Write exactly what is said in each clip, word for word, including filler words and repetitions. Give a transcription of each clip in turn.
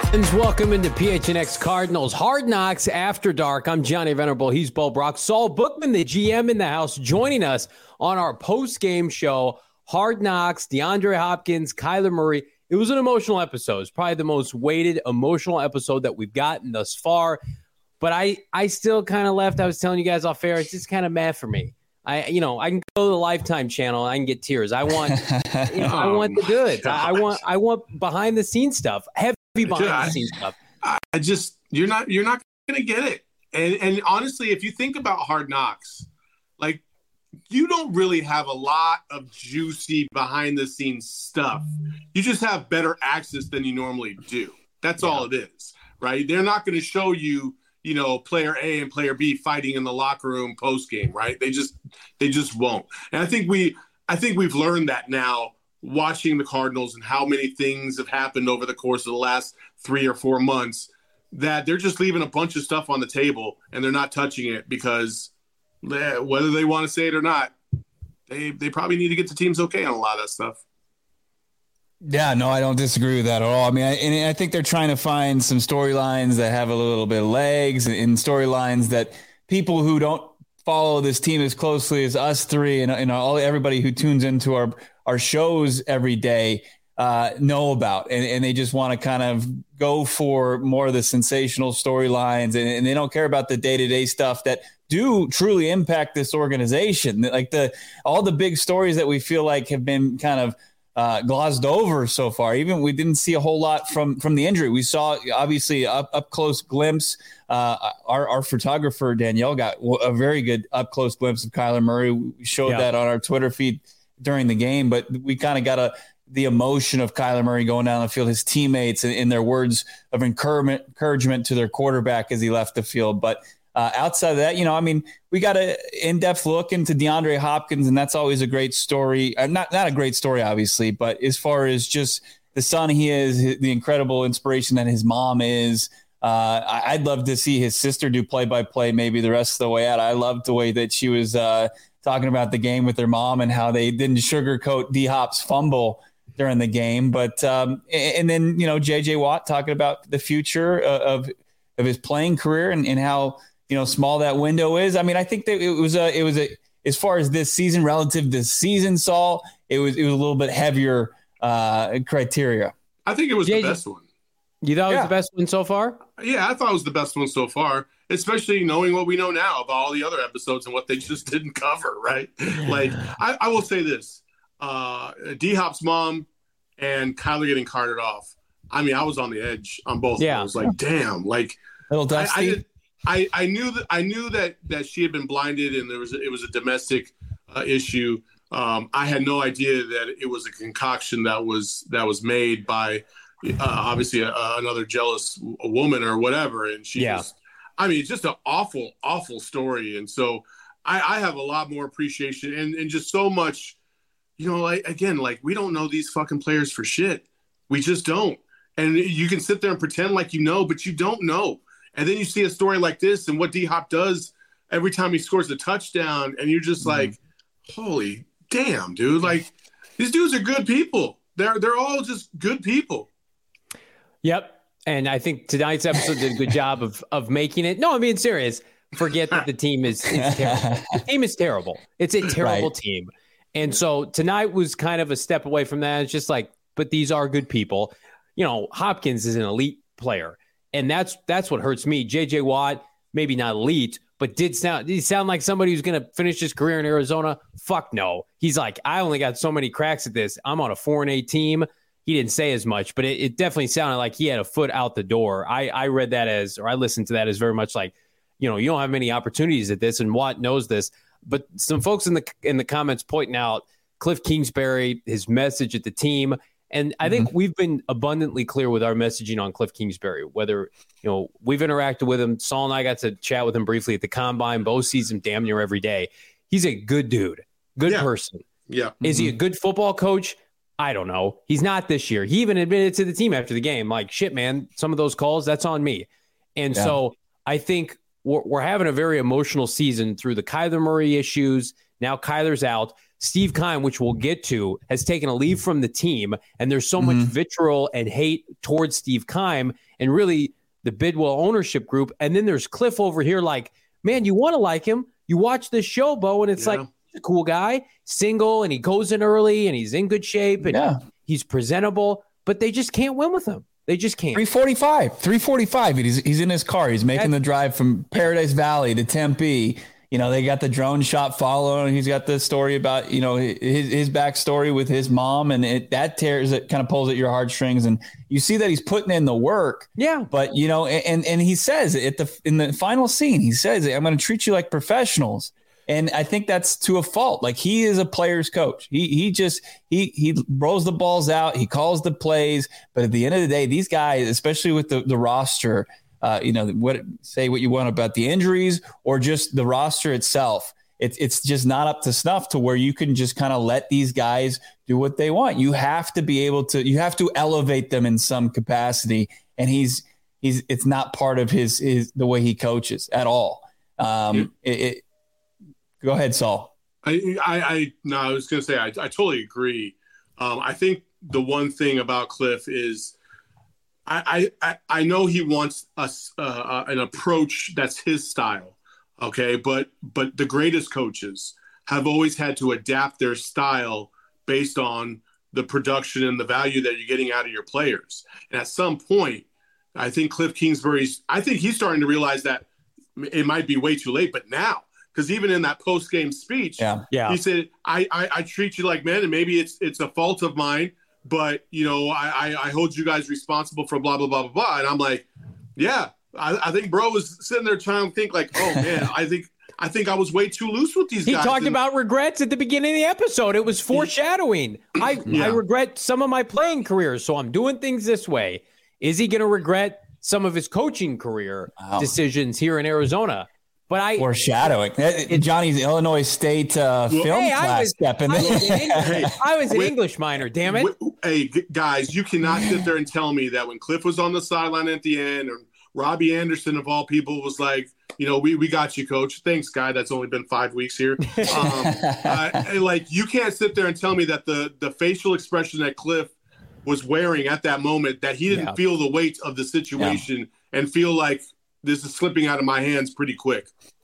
Welcome into P H N X Cardinals Hard Knocks After Dark. I'm Johnny Venerable. He's Bo Brock. Saul Bookman, the G M in the house, joining us on our post-game show. Hard Knocks, DeAndre Hopkins, Kyler Murray. It was an emotional episode. It's probably the most weighted emotional episode that we've gotten thus far. But I, I still kind of left. I was telling you guys off air. It's just kind of mad for me. I, you know, I can go to the Lifetime channel and I can get tears. I want, you know, I want the goods. I, I want, I want behind the scenes stuff. Heavy behind Dude, the scenes stuff. I, I just, you're not, you're not going to get it. And and honestly, if you think about Hard Knocks, like you don't really have a lot of juicy behind the scenes stuff. You just have better access than you normally do. That's yeah. all it is, right? They're not going to show you, you know, player A and player B fighting in the locker room post game, right? They just, they just won't. And I think we, I think we've learned that now, watching the Cardinals and how many things have happened over the course of the last three or four months, that they're just leaving a bunch of stuff on the table and they're not touching it because they, whether they want to say it or not, they they probably need to get the teams okay on a lot of that stuff. Yeah, no, I don't disagree with that at all. I mean, I, and I think they're trying to find some storylines that have a little bit of legs and storylines that people who don't follow this team as closely as us three and, and all everybody who tunes into our, our shows every day uh, know about. And, and they just want to kind of go for more of the sensational storylines and, and they don't care about the day-to-day stuff that do truly impact this organization. Like the all the big stories that we feel like have been kind of Uh, glossed over so far. Even we didn't see a whole lot from from the injury. We saw obviously up up close glimpse. Uh, our our photographer Danielle got a very good up close glimpse of Kyler Murray. We showed yeah. that on our Twitter feed during the game, but we kind of got a the emotion of Kyler Murray going down the field, his teammates, and in their words of encouragement encouragement to their quarterback as he left the field. But Uh, outside of that, you know, I mean, we got an in-depth look into DeAndre Hopkins, and that's always a great story. Uh, not not a great story, obviously, but as far as just the son he is, the incredible inspiration that his mom is, uh, I'd love to see his sister do play-by-play maybe the rest of the way out. I loved the way that she was uh, talking about the game with her mom and how they didn't sugarcoat D-Hop's fumble during the game. But um, and then, you know, J J Watt talking about the future of of his playing career and, and how – you know, small that window is. I mean, I think that it was a, it was a, as far as this season relative to this season, Saul, it was, it was a little bit heavier uh, criteria. I think it was yeah, the best one. You thought it yeah. was the best one so far? Yeah, I thought it was the best one so far, especially knowing what we know now about all the other episodes and what they just didn't cover, right? Like, I, I will say this, uh, D-Hop's mom and Kyler getting carted off. I mean, I was on the edge on both. Yeah. I was like, damn, like, little dusty. I, I did, I, I knew that I knew that, that she had been blinded and there was a, it was a domestic uh, issue. Um, I had no idea that it was a concoction that was that was made by uh, obviously a, a, another jealous woman or whatever. And she yeah. just, I mean, it's just an awful, awful story. And so I, I have a lot more appreciation and, and just so much, you know, like, again, like we don't know these fucking players for shit. We just don't. And you can sit there and pretend like you know, but you don't know. And then you see a story like this and what D-Hop does every time he scores a touchdown, and you're just mm-hmm. like, holy damn, dude. Like, these dudes are good people. They're they're all just good people. Yep. And I think tonight's episode did a good job of of making it. No, I'm being serious. Forget that the team is it's terrible. The team is terrible. It's a terrible right. team. And so tonight was kind of a step away from that. It's just like, but these are good people. You know, Hopkins is an elite player. And that's that's what hurts me. J J Watt, maybe not elite, but did sound did he sound like somebody who's going to finish his career in Arizona? Fuck no. He's like, I only got so many cracks at this. I'm on a four and eight team. He didn't say as much, but it, it definitely sounded like he had a foot out the door. I, I read that as, or I listened to that as very much like, you know, you don't have many opportunities at this, and Watt knows this. But some folks in the in the comments pointing out Cliff Kingsbury, his message at the team. And I think mm-hmm. we've been abundantly clear with our messaging on Cliff Kingsbury, whether, you know, we've interacted with him. Saul and I got to chat with him briefly at the Combine. Bo sees him damn near every day. He's a good dude, good yeah. person. Yeah. Is mm-hmm. he a good football coach? I don't know. He's not this year. He even admitted to the team after the game, like, shit, man, some of those calls, that's on me. And yeah. so I think we're, we're having a very emotional season through the Kyler Murray issues. Now Kyler's out. Steve Keim, which we'll get to, has taken a leave from the team, and there's so mm-hmm. much vitriol and hate towards Steve Keim. and really the Bidwell ownership group. And then there's Cliff over here like, man, you want to like him. You watch this show, Bo, and it's yeah. like, he's a cool guy, single, and he goes in early, and he's in good shape, and yeah. he's presentable, but they just can't win with him. They just can't. three forty-five, three forty-five. He's, he's in his car. He's making That's, the drive from Paradise Valley to Tempe. You know, they got the drone shot following. He's got the story about, you know, his, his backstory with his mom, and it that tears it, kind of pulls at your heartstrings. And you see that he's putting in the work. Yeah. But, you know, and and he says at the in the final scene, he says, I'm going to treat you like professionals. And I think that's to a fault. Like, he is a player's coach. He he just he he rolls the balls out. He calls the plays. But at the end of the day, these guys, especially with the, the roster, Uh, you know, what say what you want about the injuries or just the roster itself. It's it's just not up to snuff to where you can just kind of let these guys do what they want. You have to be able to. You have to elevate them in some capacity, and he's he's it's not part of his his the way he coaches at all. Um, it, it, go ahead, Saul. I I, I no, I was going to say I, I totally agree. Um, I think the one thing about Cliff is. I, I I know he wants us uh, an approach that's his style, okay. But but the greatest coaches have always had to adapt their style based on the production and the value that you're getting out of your players. And at some point, I think Cliff Kingsbury's. I think he's starting to realize that it might be way too late. But now, because even in that post game speech, yeah. Yeah. he said, I, I I treat you like men, and maybe it's it's a fault of mine. But, you know, I, I, I hold you guys responsible for blah, blah, blah, blah, blah. And I'm like, yeah, I, I think bro was sitting there trying to think like, oh, man, I think I think I was way too loose with these he guys. He talked and, about regrets at the beginning of the episode. It was foreshadowing. I, yeah. I regret some of my playing career, so I'm doing things this way. Is he going to regret some of his coaching career wow. decisions here in Arizona? But I foreshadowing. It, Johnny's Illinois State uh, well, film hey, class was, stepping. I was, an, hey, I was an with, English minor. Damn it! With, hey guys, you cannot sit there and tell me that when Cliff was on the sideline at the end, or Robbie Anderson of all people was like, you know, we we got you, coach. Thanks, guy. That's only been five weeks here. Um, uh, like you can't sit there and tell me that the the facial expression that Cliff was wearing at that moment, that he didn't yeah. feel the weight of the situation yeah. and feel like. This is slipping out of my hands pretty quick.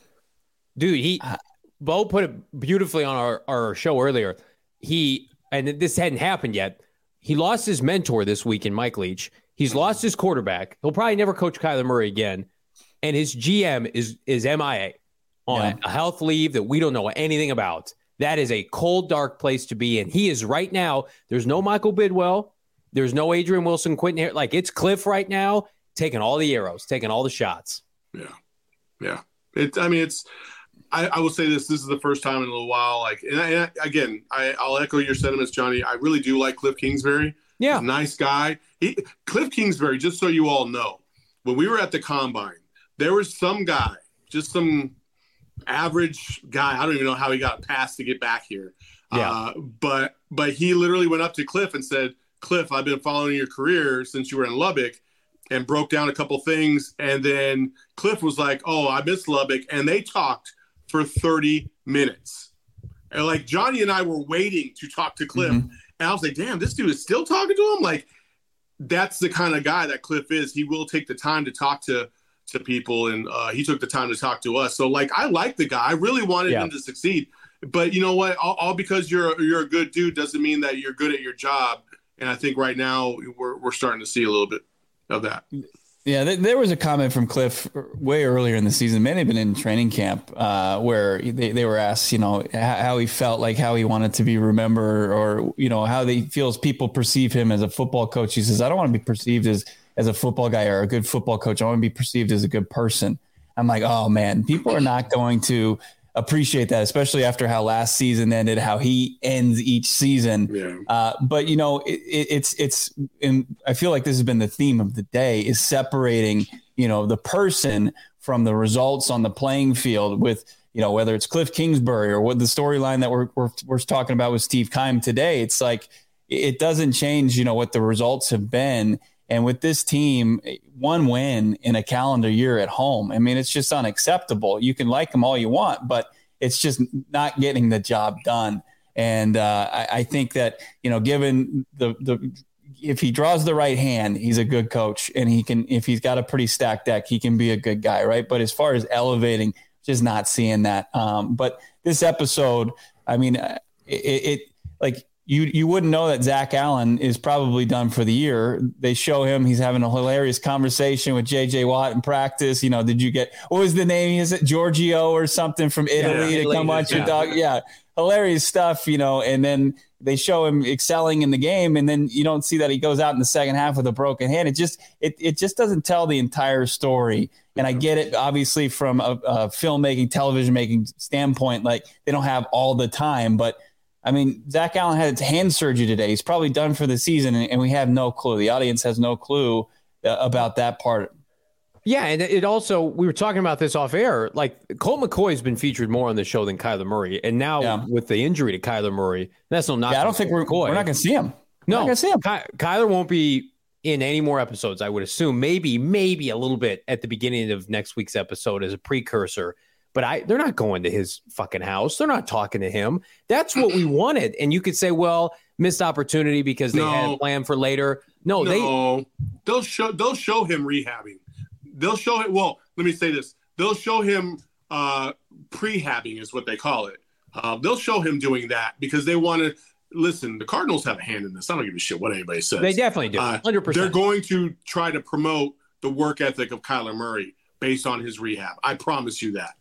Dude, he Bo put it beautifully on our, our show earlier. He, and this hadn't happened yet, he lost his mentor this week in Mike Leach. He's lost his quarterback. He'll probably never coach Kyler Murray again. And his G M is is M I A on yeah. a health leave that we don't know anything about. That is a cold, dark place to be in. He is right now. There's no Michael Bidwell. There's no Adrian Wilson, Quentin Harris. Like, it's Cliff right now. Taking all the arrows, taking all the shots. Yeah. Yeah. It, I mean, it's, I, I will say this, this is the first time in a little while. Like, and, I, and I, again, I, I'll echo your sentiments, Johnny. I really do like Cliff Kingsbury. Yeah. He's a nice guy. He, Cliff Kingsbury, just so you all know, when we were at the combine, there was some guy, just some average guy. I don't even know how he got a pass to get back here. Yeah. Uh, but, but he literally went up to Cliff and said, Cliff, I've been following your career since you were in Lubbock. And broke down a couple things. And then Cliff was like, oh, I miss Lubbock. And they talked for thirty minutes. And like Johnny and I were waiting to talk to Cliff. Mm-hmm. And I was like, damn, this dude is still talking to him? Like, that's the kind of guy that Cliff is. He will take the time to talk to, to people. And uh, he took the time to talk to us. So, like, I like the guy. I really wanted yeah. him to succeed. But you know what? All, all because you're, you're a good dude doesn't mean that you're good at your job. And I think right now we're we're starting to see a little bit of that. Yeah, th- there was a comment from Cliff way earlier in the season, may have been in training camp, uh, where they, they were asked, you know, how, how he felt, like how he wanted to be remembered, or, you know, how they feels people perceive him as a football coach. He says, I don't want to be perceived as, as a football guy or a good football coach. I want to be perceived as a good person. I'm like, oh man, people are not going to appreciate that, especially after how last season ended, how he ends each season. Yeah. Uh, but you know, it, it, it's, it's, and I feel like this has been the theme of the day, is separating, you know, the person from the results on the playing field with, you know, whether it's Cliff Kingsbury or what the storyline that we're, we're, we're talking about with Steve Keim today. It's like, it doesn't change, you know, what the results have been. And with this team, one win in a calendar year at home, I mean, it's just unacceptable. You can like them all you want, but it's just not getting the job done. And uh, I, I think that, you know, given the, the if he draws the right hand, he's a good coach, and he can, if he's got a pretty stacked deck, he can be a good guy. Right. But as far as elevating, just not seeing that. Um, but this episode, I mean, it, it like you, you wouldn't know that Zach Allen is probably done for the year. They show him, he's having a hilarious conversation with J J Watt in practice. You know, did you get, what was the name? Is it Giorgio or something from Italy yeah, to come watch yeah. your dog? Yeah. Hilarious stuff, you know, and then they show him excelling in the game, and then you don't see that he goes out in the second half with a broken hand. It just it it just doesn't tell the entire story. And I get it, obviously, from a, a filmmaking, television making standpoint, like they don't have all the time. But I mean, Zach Allen had hand surgery today. He's probably done for the season, and, and we have no clue. The audience has no clue uh, about that part. Yeah, and it also, we were talking about this off air, like Colt McCoy's been featured more on the show than Kyler Murray. And now yeah. with the injury to Kyler Murray, that's no knock. Yeah, I don't think we're, we're not going to see him. No, going to see him. Ky- Kyler won't be in any more episodes, I would assume. Maybe, maybe a little bit at the beginning of next week's episode as a precursor. But I, they're not going to his fucking house. They're not talking to him. That's what we wanted. And you could say, well, missed opportunity because they no. had a plan for later. No, no, they they'll show they'll show him rehabbing. They'll show it. Well, let me say this. They'll show him uh, prehabbing is what they call it. Uh, they'll show him doing that because they want to listen. The Cardinals have a hand in this. I don't give a shit what anybody says. They definitely do. one hundred percent. Uh, they're going to try to promote the work ethic of Kyler Murray based on his rehab. I promise you that.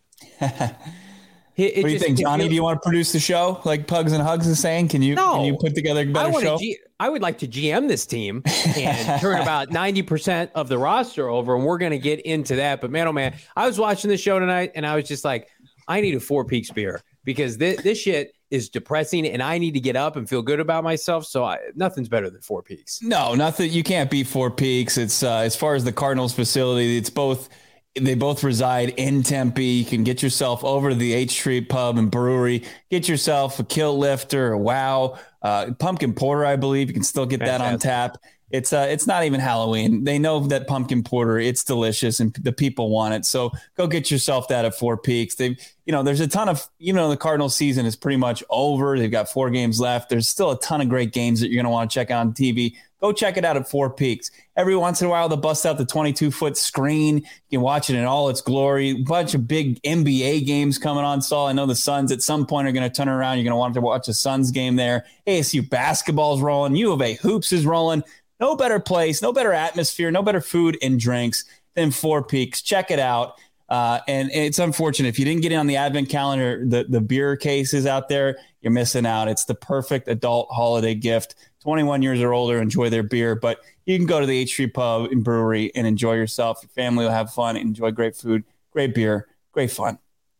It, it what do you just, think, Johnny? Feels, do you want to produce the show like Pugs and Hugs is saying? Can you no, can you put together a better I show? G, I would like to G M this team and turn about ninety percent of the roster over, and we're going to get into that. But man, oh man, I was watching the show tonight, and I was just like, I need a Four Peaks beer because this, this shit is depressing, and I need to get up and feel good about myself. So I, nothing's better than Four Peaks. No, nothing. You can't beat Four Peaks. It's uh, as far as the Cardinals facility, it's both. They both reside in Tempe. You can get yourself over to the H Street Pub and Brewery. Get yourself a Kill Lifter, a Wow, uh, pumpkin porter. I believe you can still get Fantastic. that on tap. It's uh, it's not even Halloween. They know that pumpkin porter. It's delicious, and the people want it. So go get yourself that at Four Peaks. They, you know, there's a ton of, even though the Cardinals season is pretty much over, they've got four games left. There's still a ton of great games that you're going to want to check out on T V. Go check it out at Four Peaks. Every once in a while, they'll bust out the twenty-two foot screen. You can watch it in all its glory. A bunch of big N B A games coming on, Saul. I know the Suns at some point are going to turn around. You're going to want to watch a Suns game there. A S U basketball's rolling. U of A hoops is rolling. No better place, no better atmosphere, no better food and drinks than Four Peaks. Check it out. Uh, and it's unfortunate if you didn't get it on the advent calendar, the, the beer cases out there, you're missing out. It's the perfect adult holiday gift. twenty-one years or older, enjoy their beer, but you can go to the H Street Pub and Brewery and enjoy yourself. Your family will have fun, enjoy great food, great beer, great fun.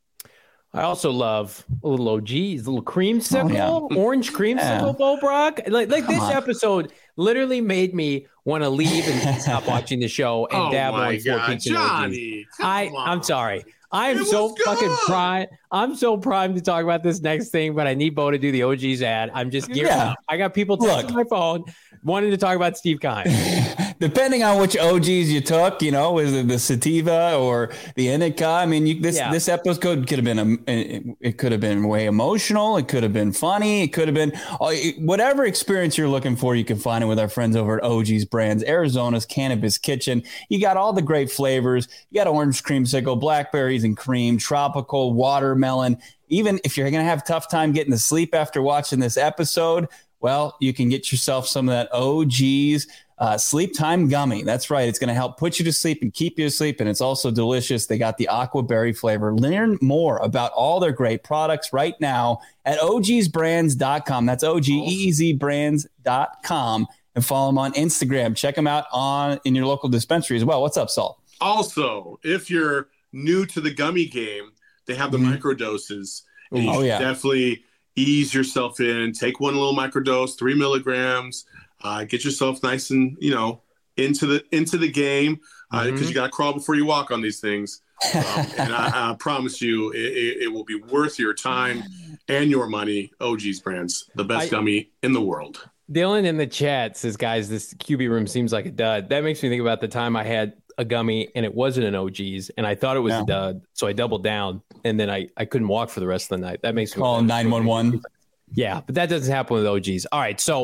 I also love a little O G's, a little creamsicle, oh, yeah. orange creamsicle, yeah. Bo Brock. Like, like this on. episode literally made me want to leave and stop watching the show and oh dabble my in Four God, Peaks and O G's. I, on. I'm sorry. I'm It so was good. fucking primed. I'm so primed to talk about this next thing, but I need Bo to do the O G's ad. I'm just gearing Yeah. up. I got people texting my phone wanting to talk about Steve Kine. Depending on which O Gs you took, you know, was it the sativa or the indica? I mean, you, this Yeah. this episode could have been a, it could have been way emotional. It could have been funny. It could have been whatever experience you're looking for. You can find it with our friends over at O G's Brands, Arizona's Cannabis Kitchen. You got all the great flavors. You got orange creamsicle, blackberries and cream, tropical, watermelon. Even if you're going to have a tough time getting to sleep after watching this episode, well, you can get yourself some of that O G's uh, Sleep Time Gummy. That's right. It's going to help put you to sleep and keep you asleep. And it's also delicious. They got the aqua berry flavor. Learn more about all their great products right now at O Gs brands dot com. That's O G E E Z brands dot com. And follow them on Instagram. Check them out on in your local dispensary as well. What's up, Saul? Also, if you're new to the gummy game, they have the mm-hmm. microdoses. And you oh, should yeah. definitely ease yourself in. Take one little microdose, three milligrams. Uh, get yourself nice and, you know, into the into the game because uh, mm-hmm. you got to crawl before you walk on these things. Um, and I, I promise you, it, it, it will be worth your time and your money. O G's Brands, the best I, gummy in the world. Dylan in the chat says, guys, this Q B room seems like a dud. That makes me think about the time I had a gummy and it wasn't an O G's and I thought it was yeah. a dud. So I doubled down and then I, I couldn't walk for the rest of the night. That makes me call nine one one. Yeah, but that doesn't happen with O G's. All right. So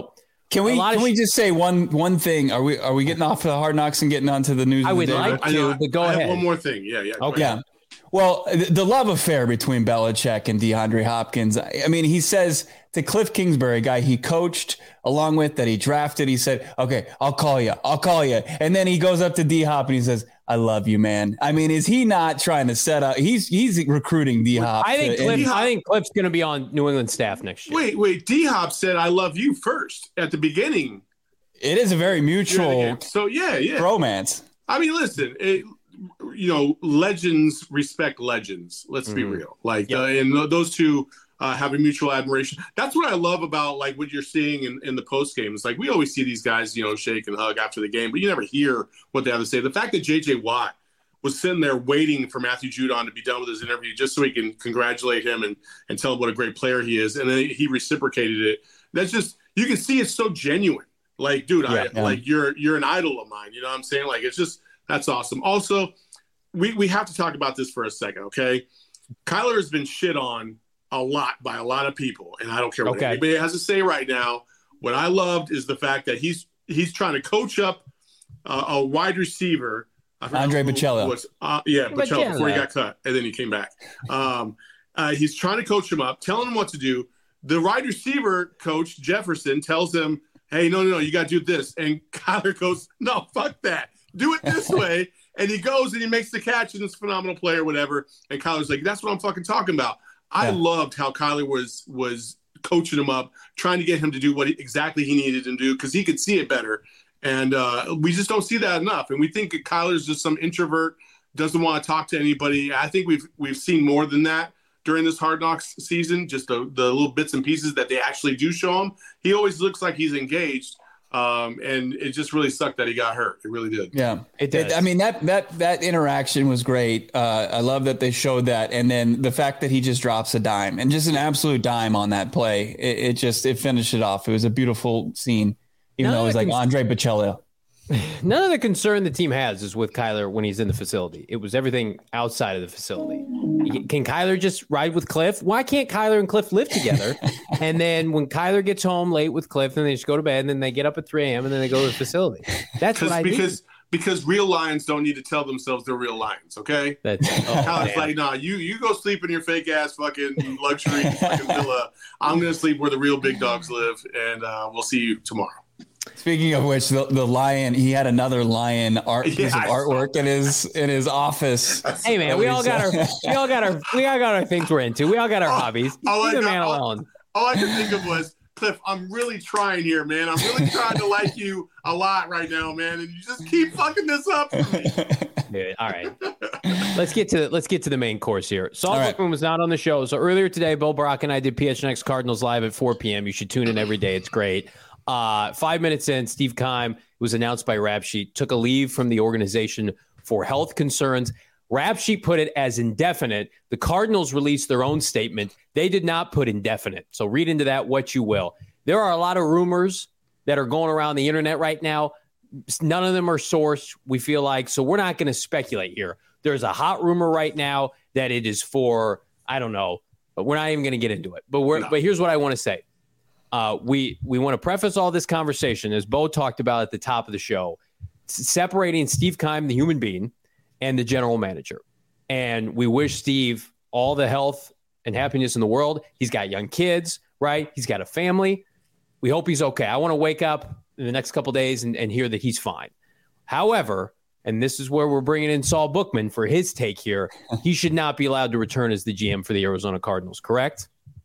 Can we can sh- we just say one one thing? Are we are we getting off the Hard Knocks and getting onto the news? I would day? like to, but go I ahead. Have one more thing. Yeah, yeah. Okay. Yeah. Well, the love affair between Belichick and DeAndre Hopkins. I mean, he says to Cliff Kingsbury, a guy he coached along with, that he drafted, he said, okay, I'll call you. I'll call you. And then he goes up to D-Hop and he says, I love you, man. I mean, is he not trying to set up? He's he's recruiting D-Hop. I think to, Cliff, D-Hop, I think Cliff's going to be on New England staff next year. Wait, wait. D-Hop said, I love you first at the beginning. It is a very mutual so, yeah, yeah. romance. I mean, listen, it, you know, legends respect legends. Let's mm-hmm. be real. Like, yep. uh, and those two uh, have a mutual admiration. That's what I love about like what you're seeing in, in the post game. It's like we always see these guys, you know, shake and hug after the game, but you never hear what they have to say. The fact that J J Watt was sitting there waiting for Matthew Judon to be done with his interview just so he can congratulate him and, and tell him what a great player he is, and then he reciprocated it. That's just, you can see it's so genuine. Like, dude, yeah, I yeah. like you're you're an idol of mine. You know what I'm saying? Like, it's just. That's awesome. Also, we, we have to talk about this for a second, okay? Kyler has been shit on a lot by a lot of people, and I don't care what okay. anybody has to say right now. What I loved is the fact that he's he's trying to coach up uh, a wide receiver. Andre Bocello. Uh, yeah, Bocello, before he got cut, and then he came back. Um, uh, he's trying to coach him up, telling him what to do. The wide receiver coach, Jefferson, tells him, hey, no, no, no, you got to do this. And Kyler goes, no, fuck that. Do it this way. And he goes and he makes the catch and it's a phenomenal play or whatever. And Kyler's like, that's what I'm fucking talking about. I yeah. loved how Kyler was was coaching him up, trying to get him to do what he, exactly he needed him to do because he could see it better. And uh, we just don't see that enough. And we think that Kyler's just some introvert, doesn't want to talk to anybody. I think we've we've seen more than that during this Hard Knocks season, just the, the little bits and pieces that they actually do show him. He always looks like he's engaged. Um, and it just really sucked that he got hurt. It really did. Yeah, it did. I mean, that that that interaction was great. Uh, I love that they showed that, and then the fact that he just drops a dime and just an absolute dime on that play. It, it just it finished it off. It was a beautiful scene, even None though it was like cons- Andre Bocello. None of the concern the team has is with Kyler when he's in the facility. It was everything outside of the facility. Can Kyler just ride with Cliff? Why can't Kyler and Cliff live together? And then when Kyler gets home late with Cliff, then they just go to bed, and then they get up at three a.m. and then they go to the facility. That's what I because need. because real lions don't need to tell themselves they're real lions. Okay, that's oh, Kyler's like, nah, you you go sleep in your fake ass fucking luxury fucking villa. I'm gonna sleep where the real big dogs live, and uh, we'll see you tomorrow. Speaking of which, the, the lion, he had another lion art piece yeah, of artwork in his in his office. Hey man, we all got our we all got our we all got our things we're into. We all got our oh, hobbies. All Leave I, the man all, alone. All I could think of was, Cliff, I'm really trying here, man. I'm really trying to like you a lot right now, man, and you just keep fucking this up for me. Dude, all right. Let's get to let's get to the main course here. Saul right. Bookman was not on the show, so earlier today, Bill Brock and I did P H N X Cardinals live at four p.m. You should tune in every day. It's great. Uh, five minutes in, Steve Keim, was announced by Rap Sheet, took a leave from the organization for health concerns. Rap Sheet put it as indefinite. The Cardinals released their own statement. They did not put indefinite. So read into that what you will. There are a lot of rumors that are going around the internet right now. None of them are sourced, we feel like. So we're not going to speculate here. There's a hot rumor right now that it is for, I don't know, but we're not even going to get into it. But we're, no. but here's what I want to say. Uh, we we want to preface all this conversation, as Bo talked about at the top of the show, separating Steve Keim, the human being, and the general manager. And we wish Steve all the health and happiness in the world. He's got young kids, right? He's got a family. We hope he's okay. I want to wake up in the next couple of days and, and hear that he's fine. However, and this is where we're bringing in Saul Bookman for his take here, he should not be allowed to return as the G M for the Arizona Cardinals, correct?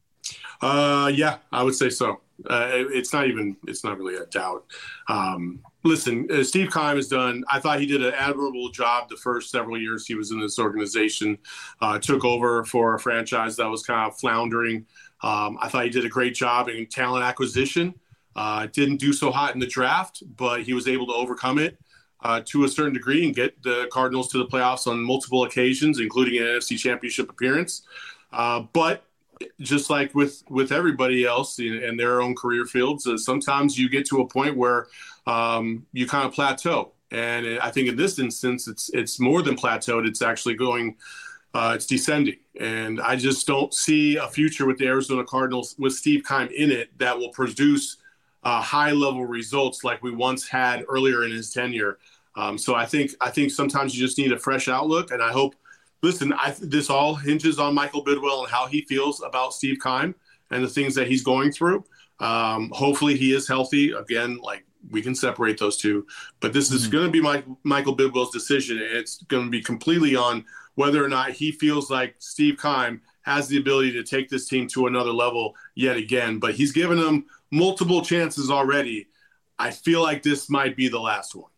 Uh, yeah, I would say so. Uh, it, it's not even, it's not really a doubt. Um, listen, uh, Steve Keim has done, I thought he did an admirable job the first several years he was in this organization, uh, took over for a franchise that was kind of floundering. Um, I thought he did a great job in talent acquisition. Uh, didn't do so hot in the draft, but he was able to overcome it uh, to a certain degree and get the Cardinals to the playoffs on multiple occasions, including an N F C Championship appearance. Uh, but just like with, with everybody else in, in their own career fields, uh, sometimes you get to a point where um, you kind of plateau. And I think in this instance, it's it's more than plateaued. It's actually going, uh, it's descending. And I just don't see a future with the Arizona Cardinals with Steve Keim in it that will produce uh, high level results like we once had earlier in his tenure. Um, so I think I think sometimes you just need a fresh outlook, and I hope. Listen, I, this all hinges on Michael Bidwill and how he feels about Steve Keim and the things that he's going through. Um, hopefully he is healthy. Again, like we can separate those two. But this is mm-hmm. going to be Mike, Michael Bidwill's decision. It's going to be completely on whether or not he feels like Steve Keim has the ability to take this team to another level yet again. But he's given them multiple chances already. I feel like this might be the last one.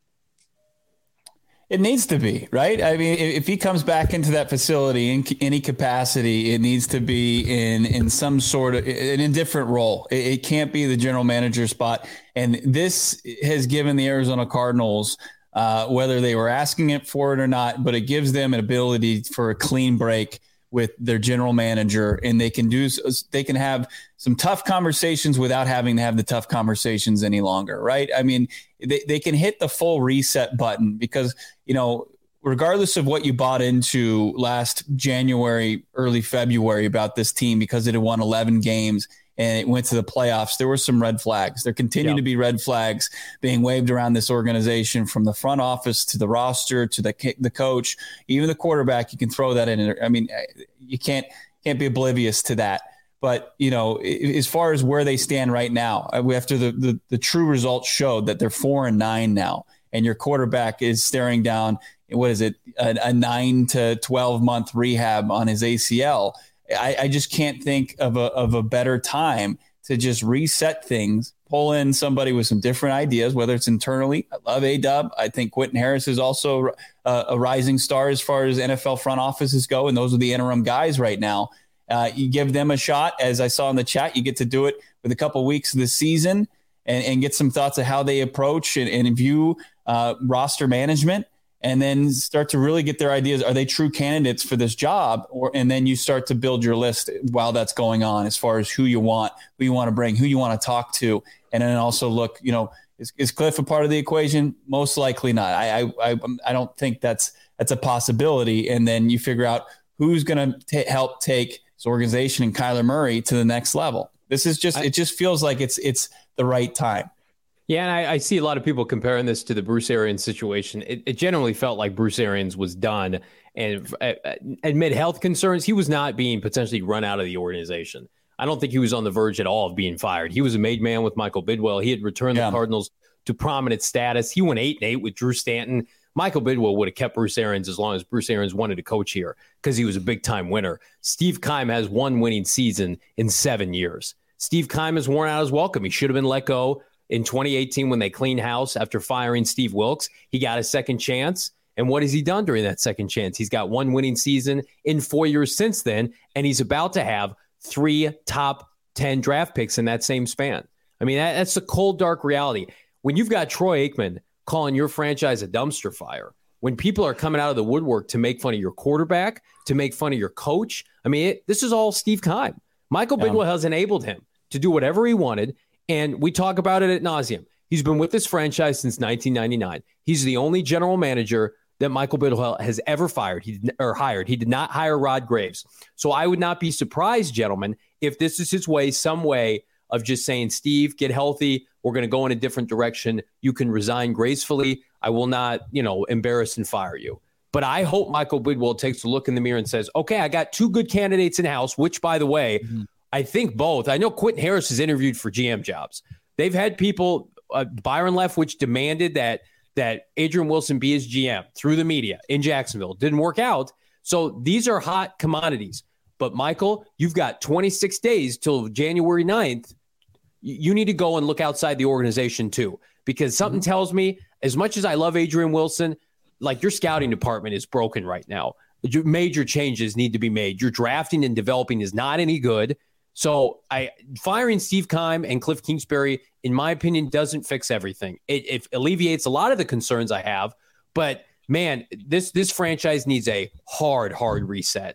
It needs to be, right? I mean, if he comes back into that facility in any capacity, it needs to be in in some sort of an indifferent role. It, it can't be the general manager spot. And this has given the Arizona Cardinals, uh, whether they were asking it for it or not, but it gives them an ability for a clean break with their general manager, and they can do they can have some tough conversations without having to have the tough conversations any longer, right? I mean, they, they can hit the full reset button because, you know, regardless of what you bought into last January, early February about this team, because it had won eleven games and it went to the playoffs, there were some red flags. There continue yep. to be red flags being waved around this organization, from the front office to the roster to the the coach, even the quarterback. You can throw that in. I mean, you can't can't be oblivious to that. But, you know, as far as where they stand right now, after the, the, the true results showed that they're four and nine now, and your quarterback is staring down, what is it, a, a nine to twelve month rehab on his A C L. I, I just can't think of a of a better time to just reset things, pull in somebody with some different ideas, whether it's internally. I love A-Dub. I think Quentin Harris is also a, a rising star as far as N F L front offices go, and those are the interim guys right now. Uh, you give them a shot. As I saw in the chat, you get to do it with a couple weeks of the season and, and get some thoughts of how they approach and, and view uh, roster management, and then start to really get their ideas. Are they true candidates for this job? Or, and then you start to build your list while that's going on, as far as who you want, who you want to bring, who you want to talk to. And then also look, you know, is, is Cliff a part of the equation? Most likely not. I, I, I, I don't think that's, that's a possibility. And then you figure out who's going to help take this organization and Kyler Murray to the next level. This is just, I, it just feels like it's, it's the right time. Yeah, and I, I see a lot of people comparing this to the Bruce Arians situation. It, it generally felt like Bruce Arians was done, and uh, amid health concerns, he was not being potentially run out of the organization. I don't think he was on the verge at all of being fired. He was a made man with Michael Bidwill. He had returned yeah. the Cardinals to prominent status. He went eight and eight with Drew Stanton. Michael Bidwill would have kept Bruce Arians as long as Bruce Arians wanted to coach here, because he was a big-time winner. Steve Keim has one winning season in seven years. Steve Keim has worn out his welcome. He should have been let go in twenty eighteen when they cleaned house after firing Steve Wilks. He got a second chance. And what has he done during that second chance? He's got one winning season in four years since then, and he's about to have three top ten draft picks in that same span. I mean, that, that's the cold, dark reality. When you've got Troy Aikman calling your franchise a dumpster fire, when people are coming out of the woodwork to make fun of your quarterback, to make fun of your coach, I mean, it, this is all Steve Keim. Michael yeah. Bidwill has enabled him to do whatever he wanted, and we talk about it ad nauseum. He's been with this franchise since nineteen ninety-nine. He's the only general manager that Michael Bidwill has ever fired he did, or hired. He did not hire Rod Graves. So I would not be surprised, gentlemen, if this is his way, some way of just saying, Steve, get healthy. We're going to go in a different direction. You can resign gracefully. I will not, you know, embarrass and fire you. But I hope Michael Bidwill takes a look in the mirror and says, okay, I got two good candidates in house, which, by the way, mm-hmm. I think both. I know Quentin Harris has interviewed for G M jobs. They've had people, uh, Byron Leftwich demanded that that Adrian Wilson be his G M through the media in Jacksonville. Didn't work out. So these are hot commodities. But, Michael, you've got twenty-six days till January ninth. You need to go and look outside the organization, too, because something mm-hmm. tells me, as much as I love Adrian Wilson, like, your scouting department is broken right now. Major changes need to be made. Your drafting and developing is not any good. So I firing Steve Keim and Cliff Kingsbury, in my opinion, doesn't fix everything. It, it alleviates a lot of the concerns I have. But, man, this this franchise needs a hard, hard reset.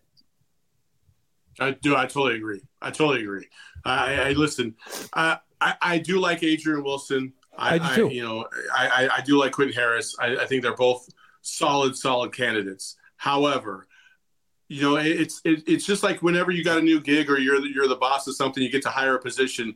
I do. I totally agree. I totally agree. I, I listen. Uh, I I do like Adrian Wilson. I, I do too. I, you know, I, I do like Quentin Harris. I, I think they're both solid, solid candidates. However, you know, it, it's it, it's just like whenever you got a new gig or you're the, you're the boss of something, you get to hire a position.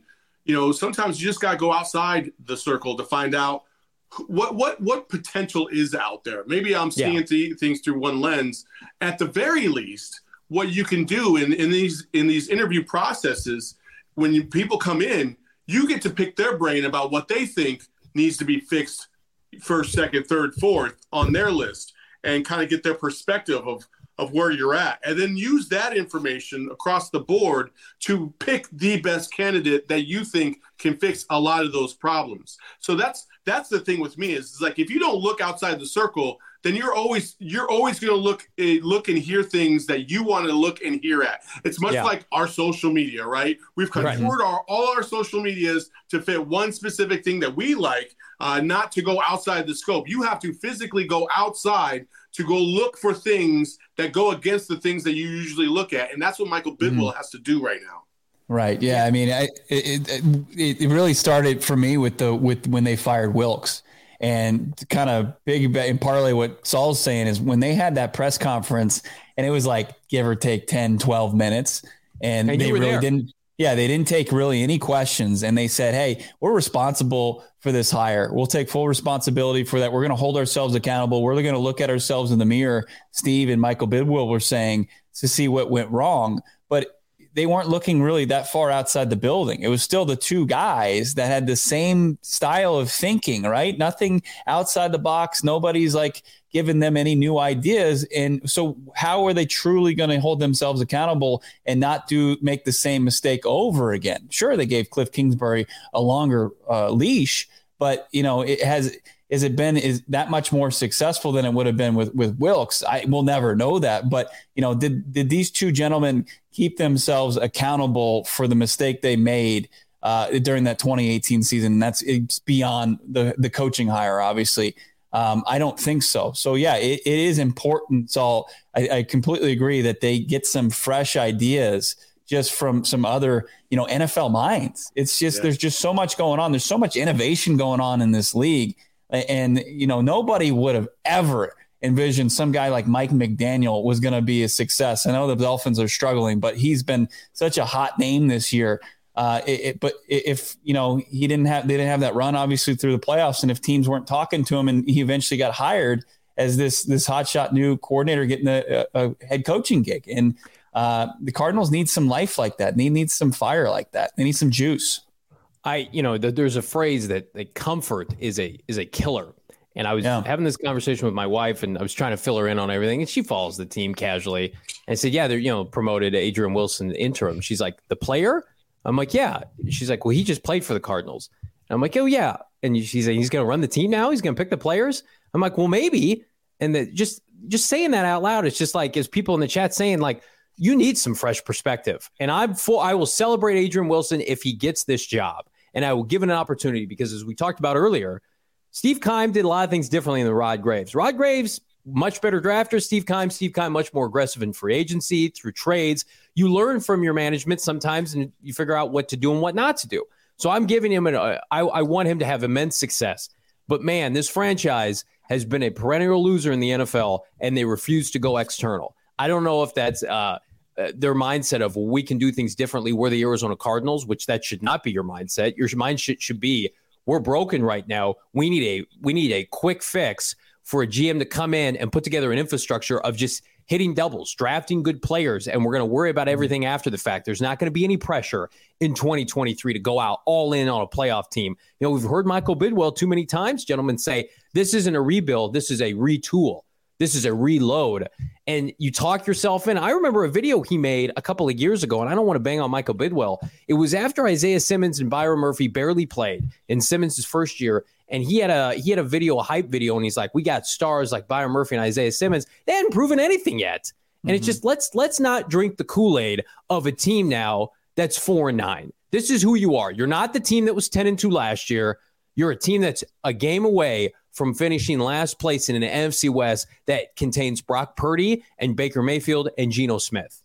you know, sometimes you just got to go outside the circle to find out what what what potential is out there. Maybe I'm seeing yeah. th- things through one lens. At the very least, what you can do in, in these in these interview processes, when you, people come in, you get to pick their brain about what they think needs to be fixed first, second, third, fourth on their list, and kind of get their perspective of of where you're at, and then use that information across the board to pick the best candidate that you think can fix a lot of those problems. So that's that's the thing with me is, is like, if you don't look outside the circle, then you're always you're always going to look uh, look and hear things that you want to look and hear at. It's much yeah. like our social media, right? We've contoured right. our all our social medias to fit one specific thing that we like, uh, not to go outside the scope. You have to physically go outside to go look for things that go against the things that you usually look at. And that's what Michael Bidwill mm. has to do right now. Right. Yeah. I mean, I, it, it, it really started for me with the, with when they fired Wilks, and kind of big and parlay what Saul's saying is when they had that press conference and it was like, give or take ten, twelve minutes. And, and they really there. didn't, yeah, they didn't take really any questions. And they said, hey, we're responsible for this hire. We'll take full responsibility for that. We're going to hold ourselves accountable. We're going to look at ourselves in the mirror. Steve and Michael Bidwill were saying to see what went wrong, but they weren't looking really that far outside the building. It was still the two guys that had the same style of thinking, right? Nothing outside the box. Nobody's like giving them any new ideas. And so how are they truly going to hold themselves accountable and not do make the same mistake over again? Sure, they gave Cliff Kingsbury a longer uh, leash, but you know, it has, is it been is that much more successful than it would have been with, with Wilks? I will never know that. But, you know, did, did these two gentlemen keep themselves accountable for the mistake they made uh, during that twenty eighteen season? And that's it's beyond the, the coaching hire, obviously. Um, I don't think so. So, yeah, it, it is important. So I, I completely agree that they get some fresh ideas just from some other, you know, N F L minds. It's just yeah. there's just so much going on. There's so much innovation going on in this league. And, you know, nobody would have ever envisioned some guy like Mike McDaniel was going to be a success. I know the Dolphins are struggling, but he's been such a hot name this year. Uh, it, it, but if, you know, he didn't have, they didn't have that run obviously through the playoffs. And if teams weren't talking to him and he eventually got hired as this, this hotshot new coordinator getting a, a head coaching gig. And uh, the Cardinals need some life like that. They need some fire like that. They need some juice. I, you know, the, there's a phrase that, that comfort is a is a killer. And I was yeah. having this conversation with my wife, and I was trying to fill her in on everything. And she follows the team casually. And I said, yeah, they're, you know, promoted Adrian Wilson interim. She's like, the player? I'm like, yeah. She's like, well, he just played for the Cardinals. And I'm like, oh, yeah. And she's like, he's going to run the team now? He's going to pick the players? I'm like, well, maybe. And the, just just saying that out loud, it's just like, as people in the chat saying, like, you need some fresh perspective. And I'm full, I will celebrate Adrian Wilson if he gets this job. And I will give it an opportunity because, as we talked about earlier, Steve Keim did a lot of things differently than Rod Graves. Rod Graves, much better drafter. Steve Keim, Steve Keim, much more aggressive in free agency, through trades. You learn from your management sometimes, and you figure out what to do and what not to do. So I'm giving him an uh, I, I want him to have immense success. But, man, this franchise has been a perennial loser in the N F L, and they refuse to go external. I don't know if that's uh, – Uh, their mindset of, well, we can do things differently. We're the Arizona Cardinals, which that should not be your mindset. Your mindset should be, we're broken right now. We need a we need a quick fix for a G M to come in and put together an infrastructure of just hitting doubles, drafting good players, and we're going to worry about everything after the fact. There's not going to be any pressure in twenty twenty-three to go out all in on a playoff team. You know, we've heard Michael Bidwill too many times, gentlemen, say this isn't a rebuild, this is a retool. This is a reload. And you talk yourself in. I remember a video he made a couple of years ago, and I don't want to bang on Michael Bidwill. It was after Isaiah Simmons and Byron Murphy barely played in Simmons' first year. And he had a he had a video, a hype video, and he's like, we got stars like Byron Murphy and Isaiah Simmons. They hadn't proven anything yet. And mm-hmm. it's just, let's let's not drink the Kool-Aid of a team now that's four and nine. This is who you are. You're not the team that was ten and two last year. You're a team that's a game away from finishing last place in an N F C West that contains Brock Purdy and Baker Mayfield and Geno Smith.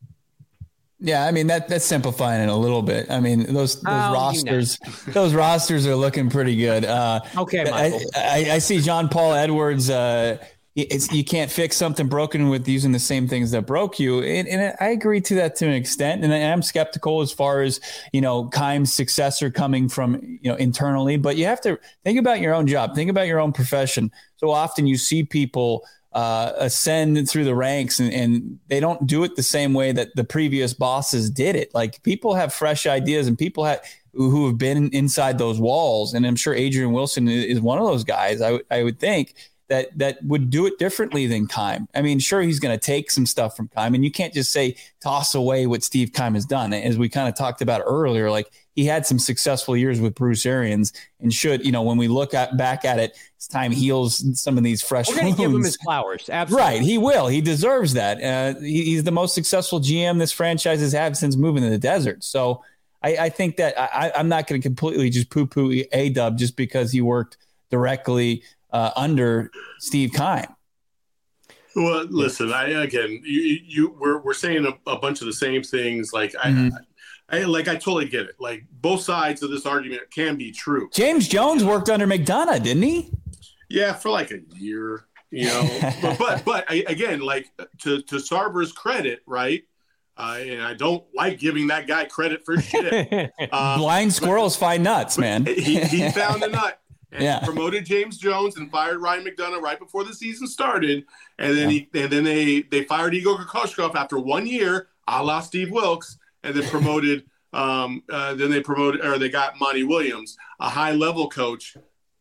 Yeah, I mean, that that's simplifying it a little bit. I mean, those those oh, rosters, you know. those rosters are looking pretty good. Uh, okay, Michael. I, I, I see John Paul Edwards. Uh, it's, you can't fix something broken with using the same things that broke you. And, and I agree to that to an extent. And I am skeptical as far as, you know, Keim's successor coming from, you know, internally, but you have to think about your own job, think about your own profession. So often you see people uh, ascend through the ranks and, and they don't do it the same way that the previous bosses did it. Like people have fresh ideas and people have, who have been inside those walls. And I'm sure Adrian Wilson is one of those guys. I, w- I would think that that would do it differently than Keim. I mean, sure, he's going to take some stuff from Keim, and you can't just say toss away what Steve Keim has done. As we kind of talked about earlier, like he had some successful years with Bruce Arians, and should, you know, when we look at, back at it, it's time heals some of these fresh wounds. We're going to give him his flowers. Absolutely. Right. He will. He deserves that. Uh, he, he's the most successful G M this franchise has had since moving to the desert. So I, I think that I, I'm not going to completely just poo-poo A-Dub just because he worked directly Uh, under Steve Keim. Well, listen, I again, you, you we're we're saying a, a bunch of the same things. Like mm-hmm. I, I, like I totally get it. Like both sides of this argument can be true. James Jones worked under McDonough, didn't he? Yeah, for like a year. You know, but but but I, again, like to to Sarver's credit, right? Uh, and I don't like giving that guy credit for shit. Uh, Blind squirrels find nuts, man. He, he found a nut. And yeah. he promoted James Jones and fired Ryan McDonough right before the season started. And then yeah. he and then they they fired Igor Kokoshkov after one year, a la Steve Wilkes, and then promoted um, uh, then they promoted or they got Monty Williams, a high level coach.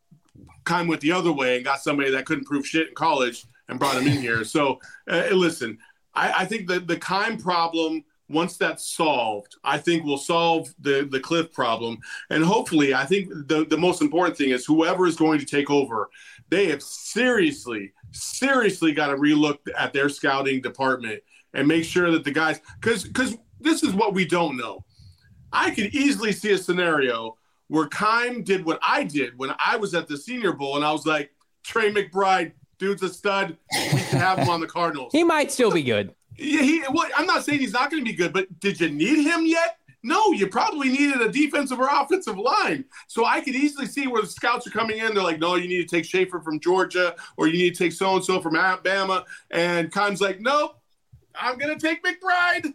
Keim went the other way and got somebody that couldn't prove shit in college and brought him in here. So uh, listen, I, I think that the Keim problem, once that's solved, I think we'll solve the, the Cliff problem. And hopefully, I think the, the most important thing is whoever is going to take over, they have seriously, seriously got to relook at their scouting department and make sure that the guys, because because this is what we don't know. I could easily see a scenario where Keim did what I did when I was at the Senior Bowl, and I was like, Trey McBride, dude's a stud. We can have him on the Cardinals. He might still be good. Yeah, he. Well, I'm not saying he's not going to be good, but did you need him yet? No, you probably needed a defensive or offensive line. So I could easily see where the scouts are coming in. They're like, no, you need to take Schaefer from Georgia, or you need to take so-and-so from Alabama. And Keim's like, nope, I'm going to take McBride.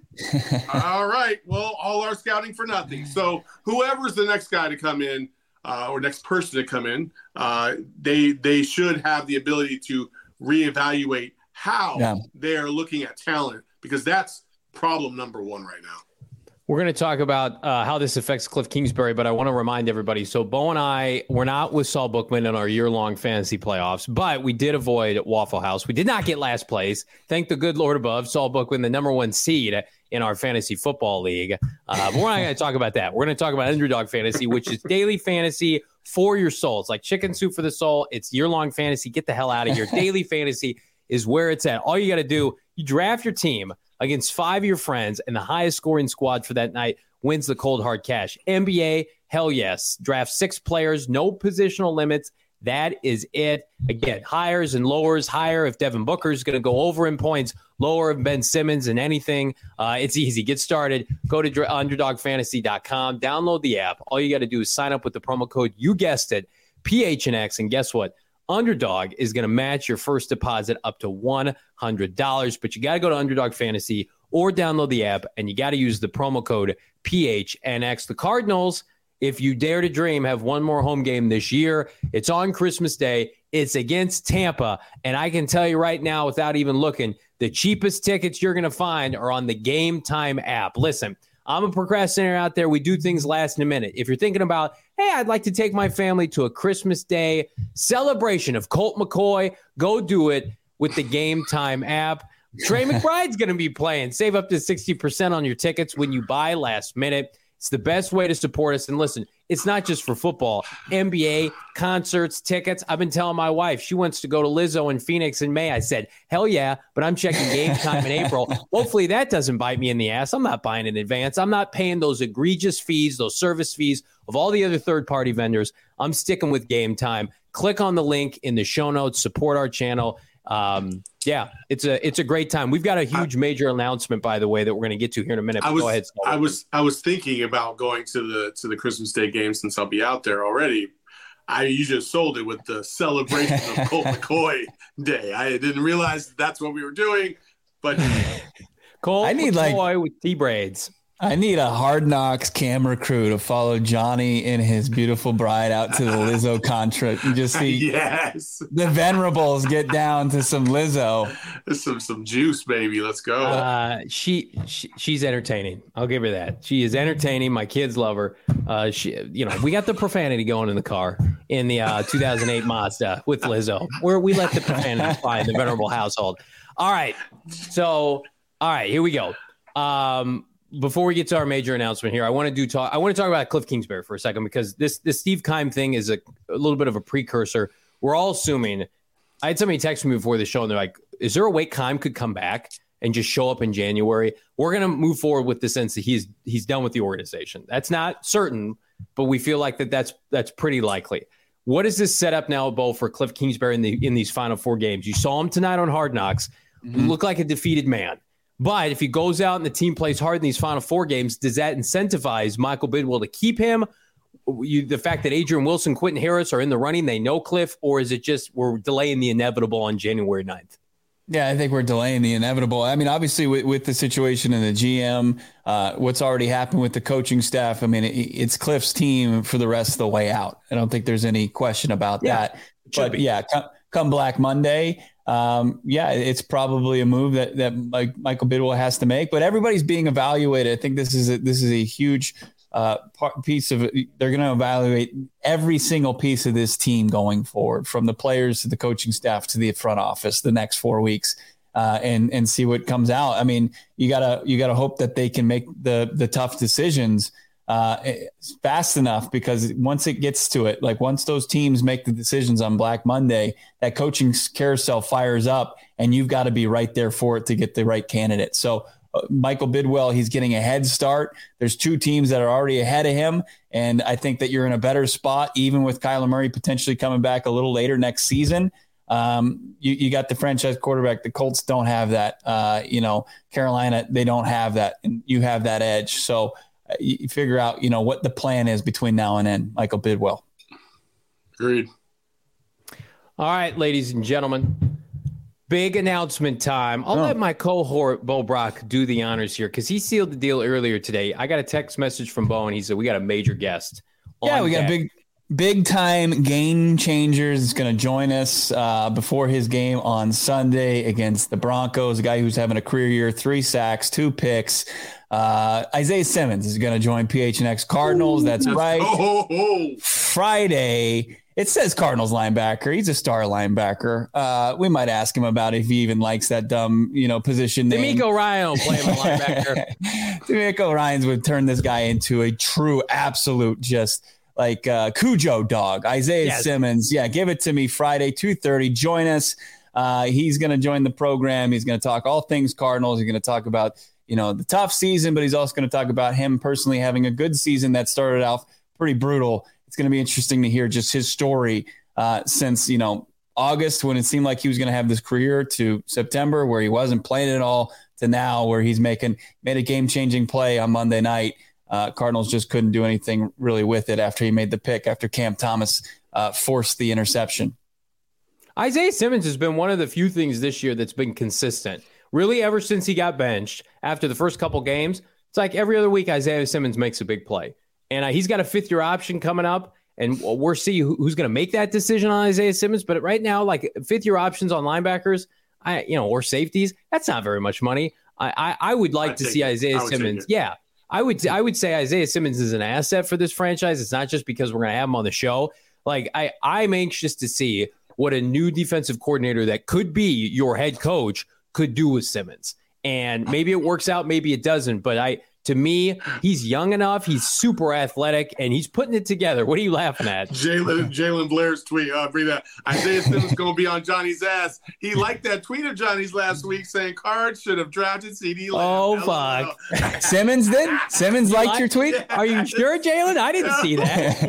All right, well, all our scouting for nothing. So whoever's the next guy to come in uh, or next person to come in, uh, they they should have the ability to reevaluate how yeah. they're looking at talent, because that's problem number one right now. We're going to talk about uh, how this affects Cliff Kingsbury, but I want to remind everybody. So Bo and I were not with Saul Bookman in our year-long fantasy playoffs, but we did avoid Waffle House. We did not get last place. Thank the good Lord above. Saul Bookman, the number one seed in our fantasy football league. Uh, but we're not going to talk about that. We're going to talk about Underdog Fantasy, which is daily fantasy for your soul. It's like chicken soup for the soul. It's year-long fantasy. Get the hell out of here. Daily fantasy is where it's at. All you got to do, you draft your team against five of your friends, and the highest scoring squad for that night wins the cold hard cash. N B A, hell yes. Draft six players, no positional limits. That is it. Again, hires and lowers. Higher if Devin Booker is going to go over in points, lower if Ben Simmons and anything. Uh, it's easy. Get started. Go to underdog fantasy dot com. Download the app. All you got to do is sign up with the promo code, you guessed it, P H N X, and guess what? Underdog is going to match your first deposit up to one hundred dollars, but you got to go to Underdog Fantasy or download the app, and you got to use the promo code P H N X. The Cardinals, if you dare to dream, have one more home game this year. It's on Christmas Day. It's against Tampa, and I can tell you right now, without even looking, the cheapest tickets you're going to find are on the Game Time app. Listen, I'm a procrastinator out there. We do things last in a minute. If you're thinking about, hey, I'd like to take my family to a Christmas Day celebration of Colt McCoy, go do it with the Game Time app. Trey McBride's going to be playing. Save up to sixty percent on your tickets when you buy last minute. It's the best way to support us. And listen, it's not just for football. N B A, concerts, tickets. I've been telling my wife she wants to go to Lizzo in Phoenix in May. I said, hell yeah, but I'm checking Game Time in April. Hopefully that doesn't bite me in the ass. I'm not buying in advance. I'm not paying those egregious fees, those service fees of all the other third-party vendors. I'm sticking with Game Time. Click on the link in the show notes. Support our channel. Um, yeah, it's a it's a great time. We've got a huge major announcement, by the way, that we're going to get to here in a minute. I was, go ahead. I was I was thinking about going to the to the Christmas Day game since I'll be out there already. I you just sold it with the celebration of Colt McCoy Day. I didn't realize that's what we were doing, but Colt I need McCoy like with T braids. I need a Hard Knocks camera crew to follow Johnny and his beautiful bride out to the Lizzo concert and just see yes. the Venerables get down to some Lizzo. Some some juice, baby. Let's go. Uh, she, she she's entertaining. I'll give her that. She is entertaining. My kids love her. Uh, she, you know, we got the profanity going in the car in the uh, two thousand eight Mazda with Lizzo, where we let the profanity fly in the Venerable household. All right, so all right, here we go. Um. Before we get to our major announcement here, I want to do talk. I want to talk about Cliff Kingsbury for a second because this this Steve Keim thing is a, a little bit of a precursor. We're all assuming. I had somebody text me before the show, and they're like, "Is there a way Keim could come back and just show up in January?" We're going to move forward with the sense that he's he's done with the organization. That's not certain, but we feel like that that's that's pretty likely. What is this set up now, Bo, for Cliff Kingsbury in the in these final four games? You saw him tonight on Hard Knocks. Mm-hmm. Look like a defeated man. But if he goes out and the team plays hard in these final four games, does that incentivize Michael Bidwell to keep him? You, the fact that Adrian Wilson, Quentin Harris are in the running, they know Cliff, or is it just we're delaying the inevitable on January ninth? Yeah, I think we're delaying the inevitable. I mean, obviously, with, with the situation in the G M, uh, what's already happened with the coaching staff, I mean, it, it's Cliff's team for the rest of the way out. I don't think there's any question about yeah, that. But be. yeah, come, come Black Monday, um, yeah, it's probably a move that that like Michael Bidwell has to make. But everybody's being evaluated. I think this is a, this is a huge uh, part, piece of it. They're going to evaluate every single piece of this team going forward, from the players to the coaching staff to the front office, the next four weeks, uh, and and see what comes out. I mean, you gotta you gotta hope that they can make the the tough decisions uh, fast enough, because once it gets to it, like once those teams make the decisions on Black Monday, that coaching carousel fires up, and you've got to be right there for it to get the right candidate. So uh, Michael Bidwell, he's getting a head start. There's two teams that are already ahead of him, and I think that you're in a better spot, even with Kyler Murray potentially coming back a little later next season. Um, you, you got the franchise quarterback. The Colts don't have that. Uh, you know, Carolina, they don't have that, and you have that edge. So you figure out, you know, what the plan is between now and then, Michael Bidwell. Agreed. All right, ladies and gentlemen, big announcement time. I'll oh. let my cohort, Bo Brock, do the honors here because he sealed the deal earlier today. I got a text message from Bo, and he said, we got a major guest. Yeah, we got deck. a big, big time game changers is going to join us uh, before his game on Sunday against the Broncos, a guy who's having a career year, three sacks, two picks. Uh, Isaiah Simmons is going to join P H N X Cardinals. That's right. Oh, oh, oh. Friday. It says Cardinals linebacker. He's a star linebacker. Uh, we might ask him about if he even likes that dumb, you know, position name. D'Amico Ryan will play him a linebacker. D'Amico Ryans would turn this guy into a true, absolute, just like uh, Cujo dog. Isaiah yes. Simmons. Yeah, give it to me Friday, two thirty. Join us. Uh, he's going to join the program. He's going to talk all things Cardinals. He's going to talk about, you know, the tough season, but he's also going to talk about him personally having a good season that started off pretty brutal. It's going to be interesting to hear just his story uh, since, you know, August, when it seemed like he was going to have this career, to September where he wasn't playing at all, to now where he's making made a game-changing play on Monday night. Uh, Cardinals just couldn't do anything really with it after he made the pick, after Cam Thomas uh, forced the interception. Isaiah Simmons has been one of the few things this year that's been consistent. Really, ever since he got benched after the first couple games, it's like every other week Isaiah Simmons makes a big play. And uh, he's got a fifth-year option coming up, and we'll see who, who's going to make that decision on Isaiah Simmons. But right now, like fifth-year options on linebackers, I you know, or safeties, that's not very much money. I I, I would like I'd to see it. Isaiah Simmons. Yeah, I would I would say Isaiah Simmons is an asset for this franchise. It's not just because we're going to have him on the show. Like I I'm anxious to see what a new defensive coordinator that could be your head coach could do with Simmons. And maybe it works out, maybe it doesn't. But I, to me, he's young enough, he's super athletic, and he's putting it together. What are you laughing at? Jalen Jalen Blair's tweet. Uh, bring that. Isaiah Simmons going to be on Johnny's ass. He liked that tweet of Johnny's last week saying Cards should have drafted C D Lamb. Oh, fuck. Simmons did? Simmons liked like, your tweet? Yeah. Are you sure, Jalen? I didn't see that.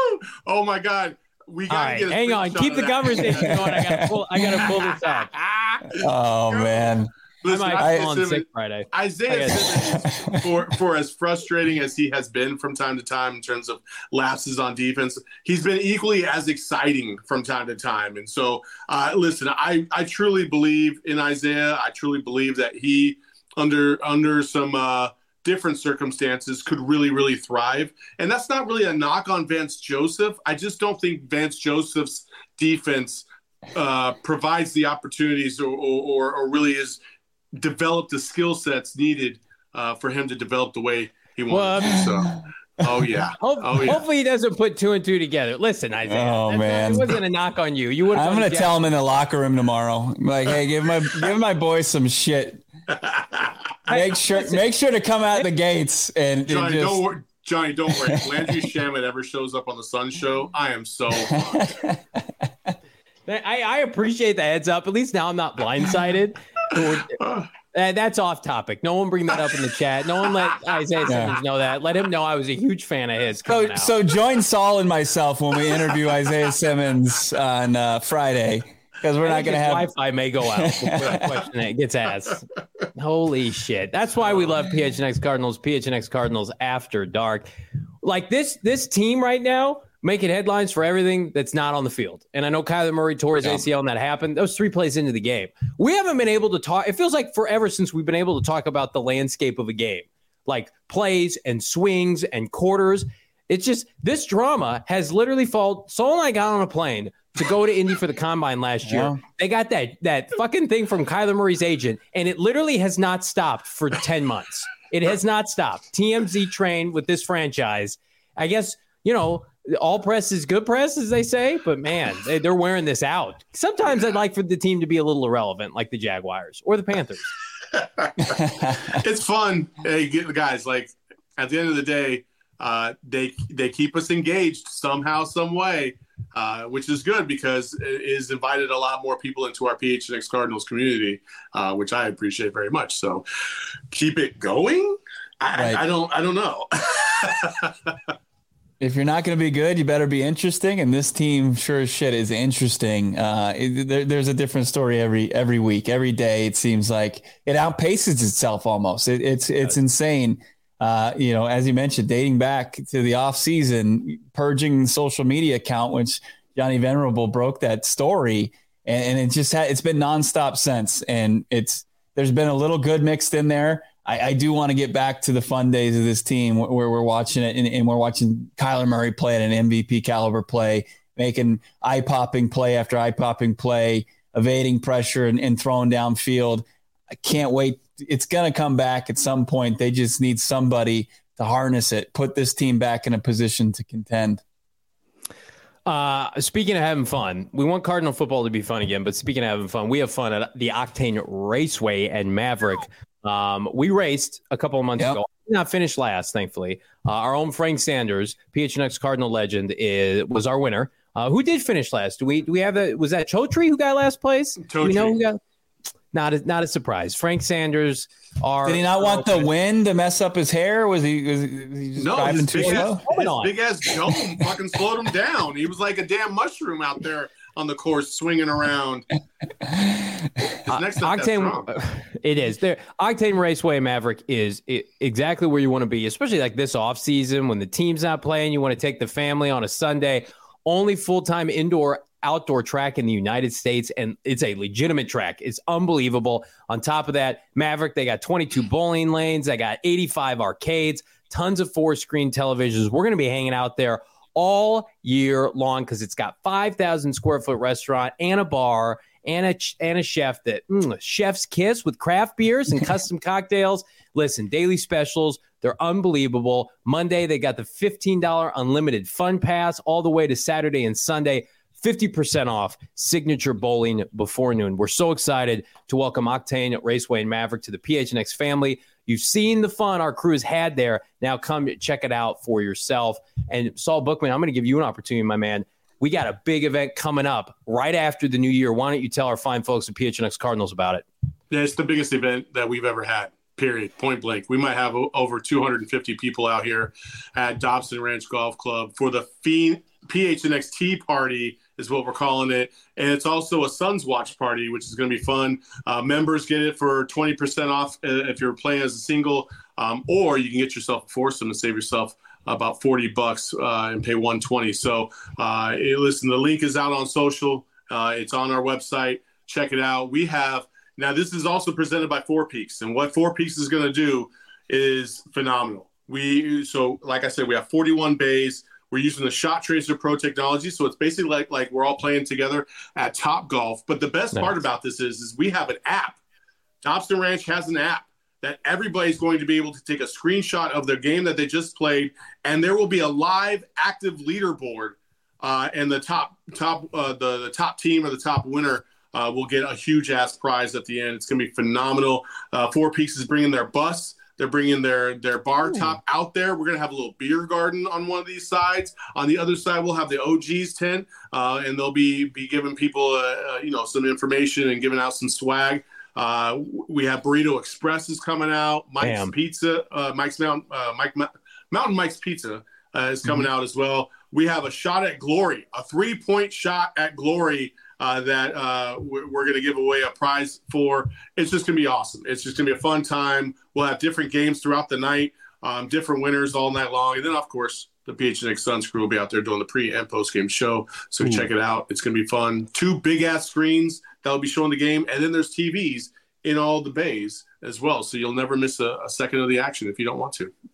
Oh, my God. We got to right, get hang on. Keep the conversation going. I got to pull, I gotta pull this out. Oh, man. Listen, I might fall on sick Friday. Isaiah Simmons, for, for as frustrating as he has been from time to time in terms of lapses on defense, he's been equally as exciting from time to time. And so, uh, listen, I, I truly believe in Isaiah. I truly believe that he, under under some uh, different circumstances, could really, really thrive. And that's not really a knock on Vance Joseph. I just don't think Vance Joseph's defense uh, provides the opportunities or, or, or really is developed the skill sets needed uh, for him to develop the way he wants well, to. So, oh yeah. Hope, oh yeah. Hopefully he doesn't put two and two together. Listen, Isaiah. Oh man, it wasn't a knock on you. You would. I'm going to tell him in the locker room tomorrow. Like, hey, give my give my boy some shit. Make sure make sure to come out the gates and, Johnny, and just... don't worry. Johnny, don't worry. If Landry Shamet ever shows up on the Sun Show, I am so. I, I appreciate the heads up. At least now I'm not blindsided. Uh, that's off topic. No one bring that up in the chat. No one let Isaiah yeah. Simmons know that. Let him know I was a huge fan of his. So, out. so join Saul and myself when we interview Isaiah Simmons on uh, Friday, because we're not going to have Wi-Fi may go out before that question gets asked. Holy shit! That's why we love P H N X Cardinals. P H N X Cardinals After Dark. Like this, this team right now making headlines for everything that's not on the field. And I know Kyler Murray tore his yeah. A C L and that happened. Those three plays into the game. We haven't been able to talk. It feels like forever since we've been able to talk about the landscape of a game, like plays and swings and quarters. It's just this drama has literally fallen. Saul and I got on a plane to go to Indy for the combine last year. Yeah. They got that that fucking thing from Kyler Murray's agent, and it literally has not stopped for ten months. It has not stopped. T M Z train with this franchise. I guess, you know, all press is good press, as they say, but man, they, they're wearing this out. Sometimes I'd like for the team to be a little irrelevant, like the Jaguars or the Panthers. It's fun. Hey, guys, like at the end of the day, uh, they they keep us engaged somehow, some way, uh, which is good because it has invited a lot more people into our P H N X Cardinals community, uh, which I appreciate very much. So keep it going. I, right. I don't. I don't know. If you're not going to be good, you better be interesting. And this team, sure as shit, is interesting. Uh, it, there, there's a different story every every week, every day. It seems like it outpaces itself almost. It, it's it's insane. Uh, you know, as you mentioned, dating back to the off season, purging social media account, which Johnny Venerable broke that story, and, and it just had, it's been nonstop since. And it's there's been a little good mixed in there. I, I do want to get back to the fun days of this team where, where we're watching it and, and we're watching Kyler Murray play at an M V P caliber play, making eye-popping play after eye-popping play, evading pressure and, and throwing downfield. I can't wait. It's going to come back at some point. They just need somebody to harness it, put this team back in a position to contend. Uh, speaking of having fun, we want Cardinal football to be fun again, but speaking of having fun, we have fun at the Octane Raceway and Maverick. Um, we raced a couple of months yep. ago. Did not finish last, thankfully. Uh, our own Frank Sanders, P H N X Cardinal legend, is, was our winner. Uh, who did finish last? Do we do we have a was that Chotri who got last place? Chotri. Do we know who got? Not a, not a surprise. Frank Sanders. Our, did he not want the wind to mess up his hair? Was he, was he just no, driving too slow? His big ass dome fucking slowed him down. He was like a damn mushroom out there on the course swinging around. Uh, Octane, it is there. Octane Raceway Maverick is it, exactly where you want to be, especially like this off season when the team's not playing. You want to take the family on a Sunday. Only full-time indoor outdoor track in the United States, and it's a legitimate track. It's unbelievable. On top of that, Maverick, they got twenty-two bowling lanes. They got eighty-five arcades, tons of four-screen televisions. We're going to be hanging out there all year long because it's got five thousand square foot restaurant and a bar and a, and a chef that mm, chef's kiss with craft beers and custom cocktails. Listen, daily specials. They're unbelievable. Monday, they got the fifteen dollars unlimited fun pass all the way to Saturday and Sunday. fifty percent off signature bowling before noon. We're so excited to welcome Octane Raceway and Maverick to the P H N X family. You've seen the fun our crews had there. Now come check it out for yourself. And Saul Bookman, I'm going to give you an opportunity, my man. We got a big event coming up right after the new year. Why don't you tell our fine folks at P H N X Cardinals about it? Yeah, it's the biggest event that we've ever had, period, point blank. We might have over two hundred fifty people out here at Dobson Ranch Golf Club for the Phoenix. P H N X Tea Party is what we're calling it. And it's also a Suns Watch Party, which is going to be fun. Uh, members get it for twenty percent off if you're playing as a single, um, or you can get yourself a foursome and save yourself about forty bucks uh, and pay one twenty. So uh, listen, the link is out on social. Uh, it's on our website. Check it out. We have, now this is also presented by Four Peaks, and what Four Peaks is going to do is phenomenal. We, so like I said, we have forty-one bays. We're using the Shot Tracer Pro technology, so it's basically like like we're all playing together at Top Golf. But the best nice. part about this is, is we have an app. Thompson Ranch has an app that everybody's going to be able to take a screenshot of their game that they just played, and there will be a live active leaderboard, uh, and the top top uh, the the top team or the top winner uh, will get a huge ass prize at the end. It's going to be phenomenal. Uh, Four Peaks is bringing their bus. They're bringing their, their bar Ooh. top out there. We're going to have a little beer garden on one of these sides. On the other side, we'll have the O Gs tent, uh, and they'll be be giving people, uh, uh, you know, some information and giving out some swag. Uh, we have Burrito Express is coming out. Mike's Damn. Pizza, uh, Mike's Mountain, uh, Mike Mountain Mike's Pizza uh, is coming mm-hmm. out as well. We have a shot at glory, a three point shot at glory. Uh, that uh, we're, we're going to give away a prize for. It's just going to be awesome. It's just going to be a fun time. We'll have different games throughout the night, um, different winners all night long. And then, of course, the P H N X Suns crew will be out there doing the pre- and post-game show. So Ooh. check it out. It's going to be fun. Two big-ass screens that will be showing the game. And then there's T Vs in all the bays as well. So you'll never miss a, a second of the action if you don't want to.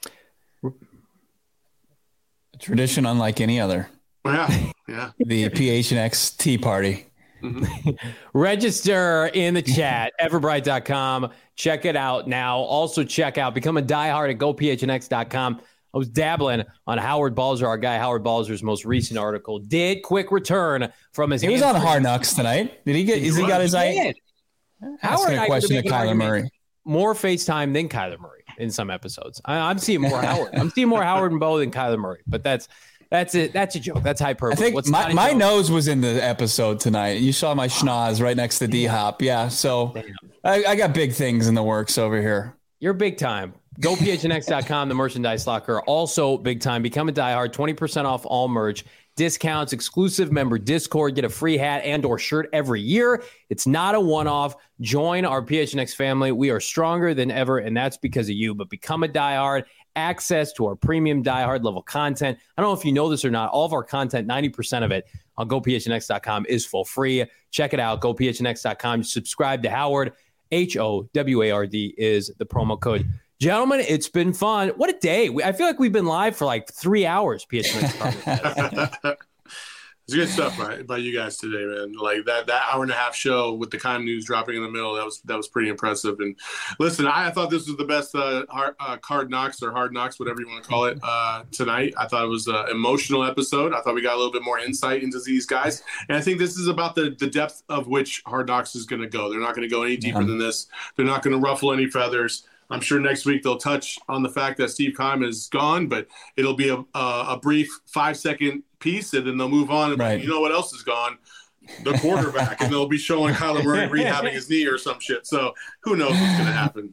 A tradition unlike any other. Yeah, yeah. The P H N X Tea Party. Mm-hmm. Register in the chat, everbright dot com. Check it out now. Also check out, become a diehard at go P H N X dot com. I was dabbling on Howard Balzer, our guy Howard Balzer's most recent article. Did quick return from his. He was on Hard Knocks tonight. Did he get? Is he got his eye? Howard, a question to Kyler Murray. More FaceTime than Kyler Murray in some episodes. I, I'm seeing more Howard. I'm seeing more Howard and Bo than Kyler Murray. But that's. That's it. That's a joke. That's hyperbole. I think What's my, my nose was in the episode tonight. You saw my schnoz right next to D-Hop. Yeah, so I, I got big things in the works over here. You're big time. go P H N X dot com, the merchandise locker. Also big time. Become a diehard. twenty percent off all merch. Discounts, exclusive member Discord. Get a free hat and or shirt every year. It's not a one-off. Join our P H N X family. We are stronger than ever, and that's because of you. But become a diehard. Access to our premium diehard level content. I don't know if you know this or not. All of our content, ninety percent of it on go P H N X dot com is for free. Check it out. go P H N X dot com. Subscribe to Howard. H O W A R D is the promo code. Gentlemen, it's been fun. What a day. I feel like we've been live for like three hours. P H N X. It's good stuff by, by you guys today, man. Like that that hour and a half show with the Kime news dropping in the middle, that was that was pretty impressive. And listen, I, I thought this was the best uh, hard, uh, card knocks or hard knocks, whatever you want to call it, uh, tonight. I thought it was an emotional episode. I thought we got a little bit more insight into these guys. And I think this is about the, the depth of which Hard Knocks is going to go. They're not going to go any deeper yeah. than this. They're not going to ruffle any feathers. I'm sure next week they'll touch on the fact that Steve Keim is gone, but it'll be a, a, a brief five-second piece, and then they'll move on. And right. you know what else is gone? The quarterback. And they'll be showing Kyler Murray rehabbing his knee or some shit. So who knows what's going to happen.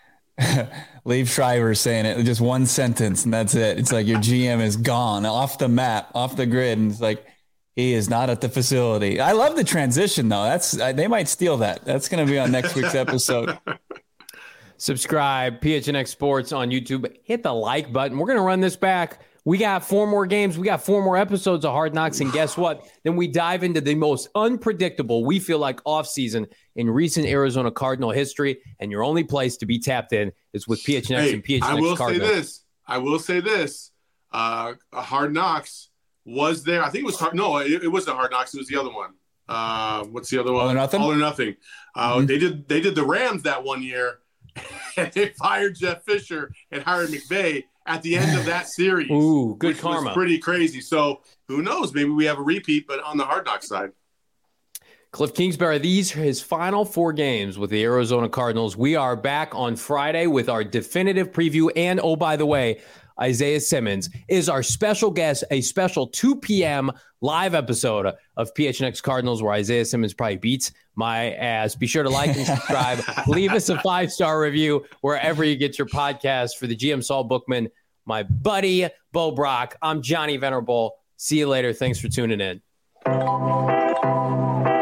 Liev Schreiber saying it, just one sentence, and that's it. It's like your G M is gone, off the map, off the grid, and it's like he is not at the facility. I love the transition, though. That's they might steal that. That's going to be on next week's episode. Subscribe, P H N X Sports on YouTube. Hit the like button. We're going to run this back. We got four more games. We got four more episodes of Hard Knocks. And guess what? Then we dive into the most unpredictable, we feel like, offseason in recent Arizona Cardinal history. And your only place to be tapped in is with P H N X hey, and P H N X I will Cardinal. say this. I will say this. Uh, Hard Knocks was there. I think it was hard. No, it, it wasn't Hard Knocks. It was the other one. Uh, what's the other one? All or Nothing? All or Nothing. Uh, mm-hmm. They did They did the Rams that one year. And they fired Jeff Fisher and hired McVay at the end of that series. Ooh, good which karma. Was pretty crazy. So who knows? Maybe we have a repeat, but on the Hard Knocks side. Cliff Kingsbury, these are his final four games with the Arizona Cardinals. We are back on Friday with our definitive preview. And, oh, by the way, Isaiah Simmons is our special guest, a special two p.m. live episode of P H N X Cardinals where Isaiah Simmons probably beats my ass. Be sure to like and subscribe. Leave us a five-star review wherever you get your podcast. For the G M Saul Bookman, my buddy Bo Brock, I'm Johnny Venerable. See you later. Thanks for tuning in.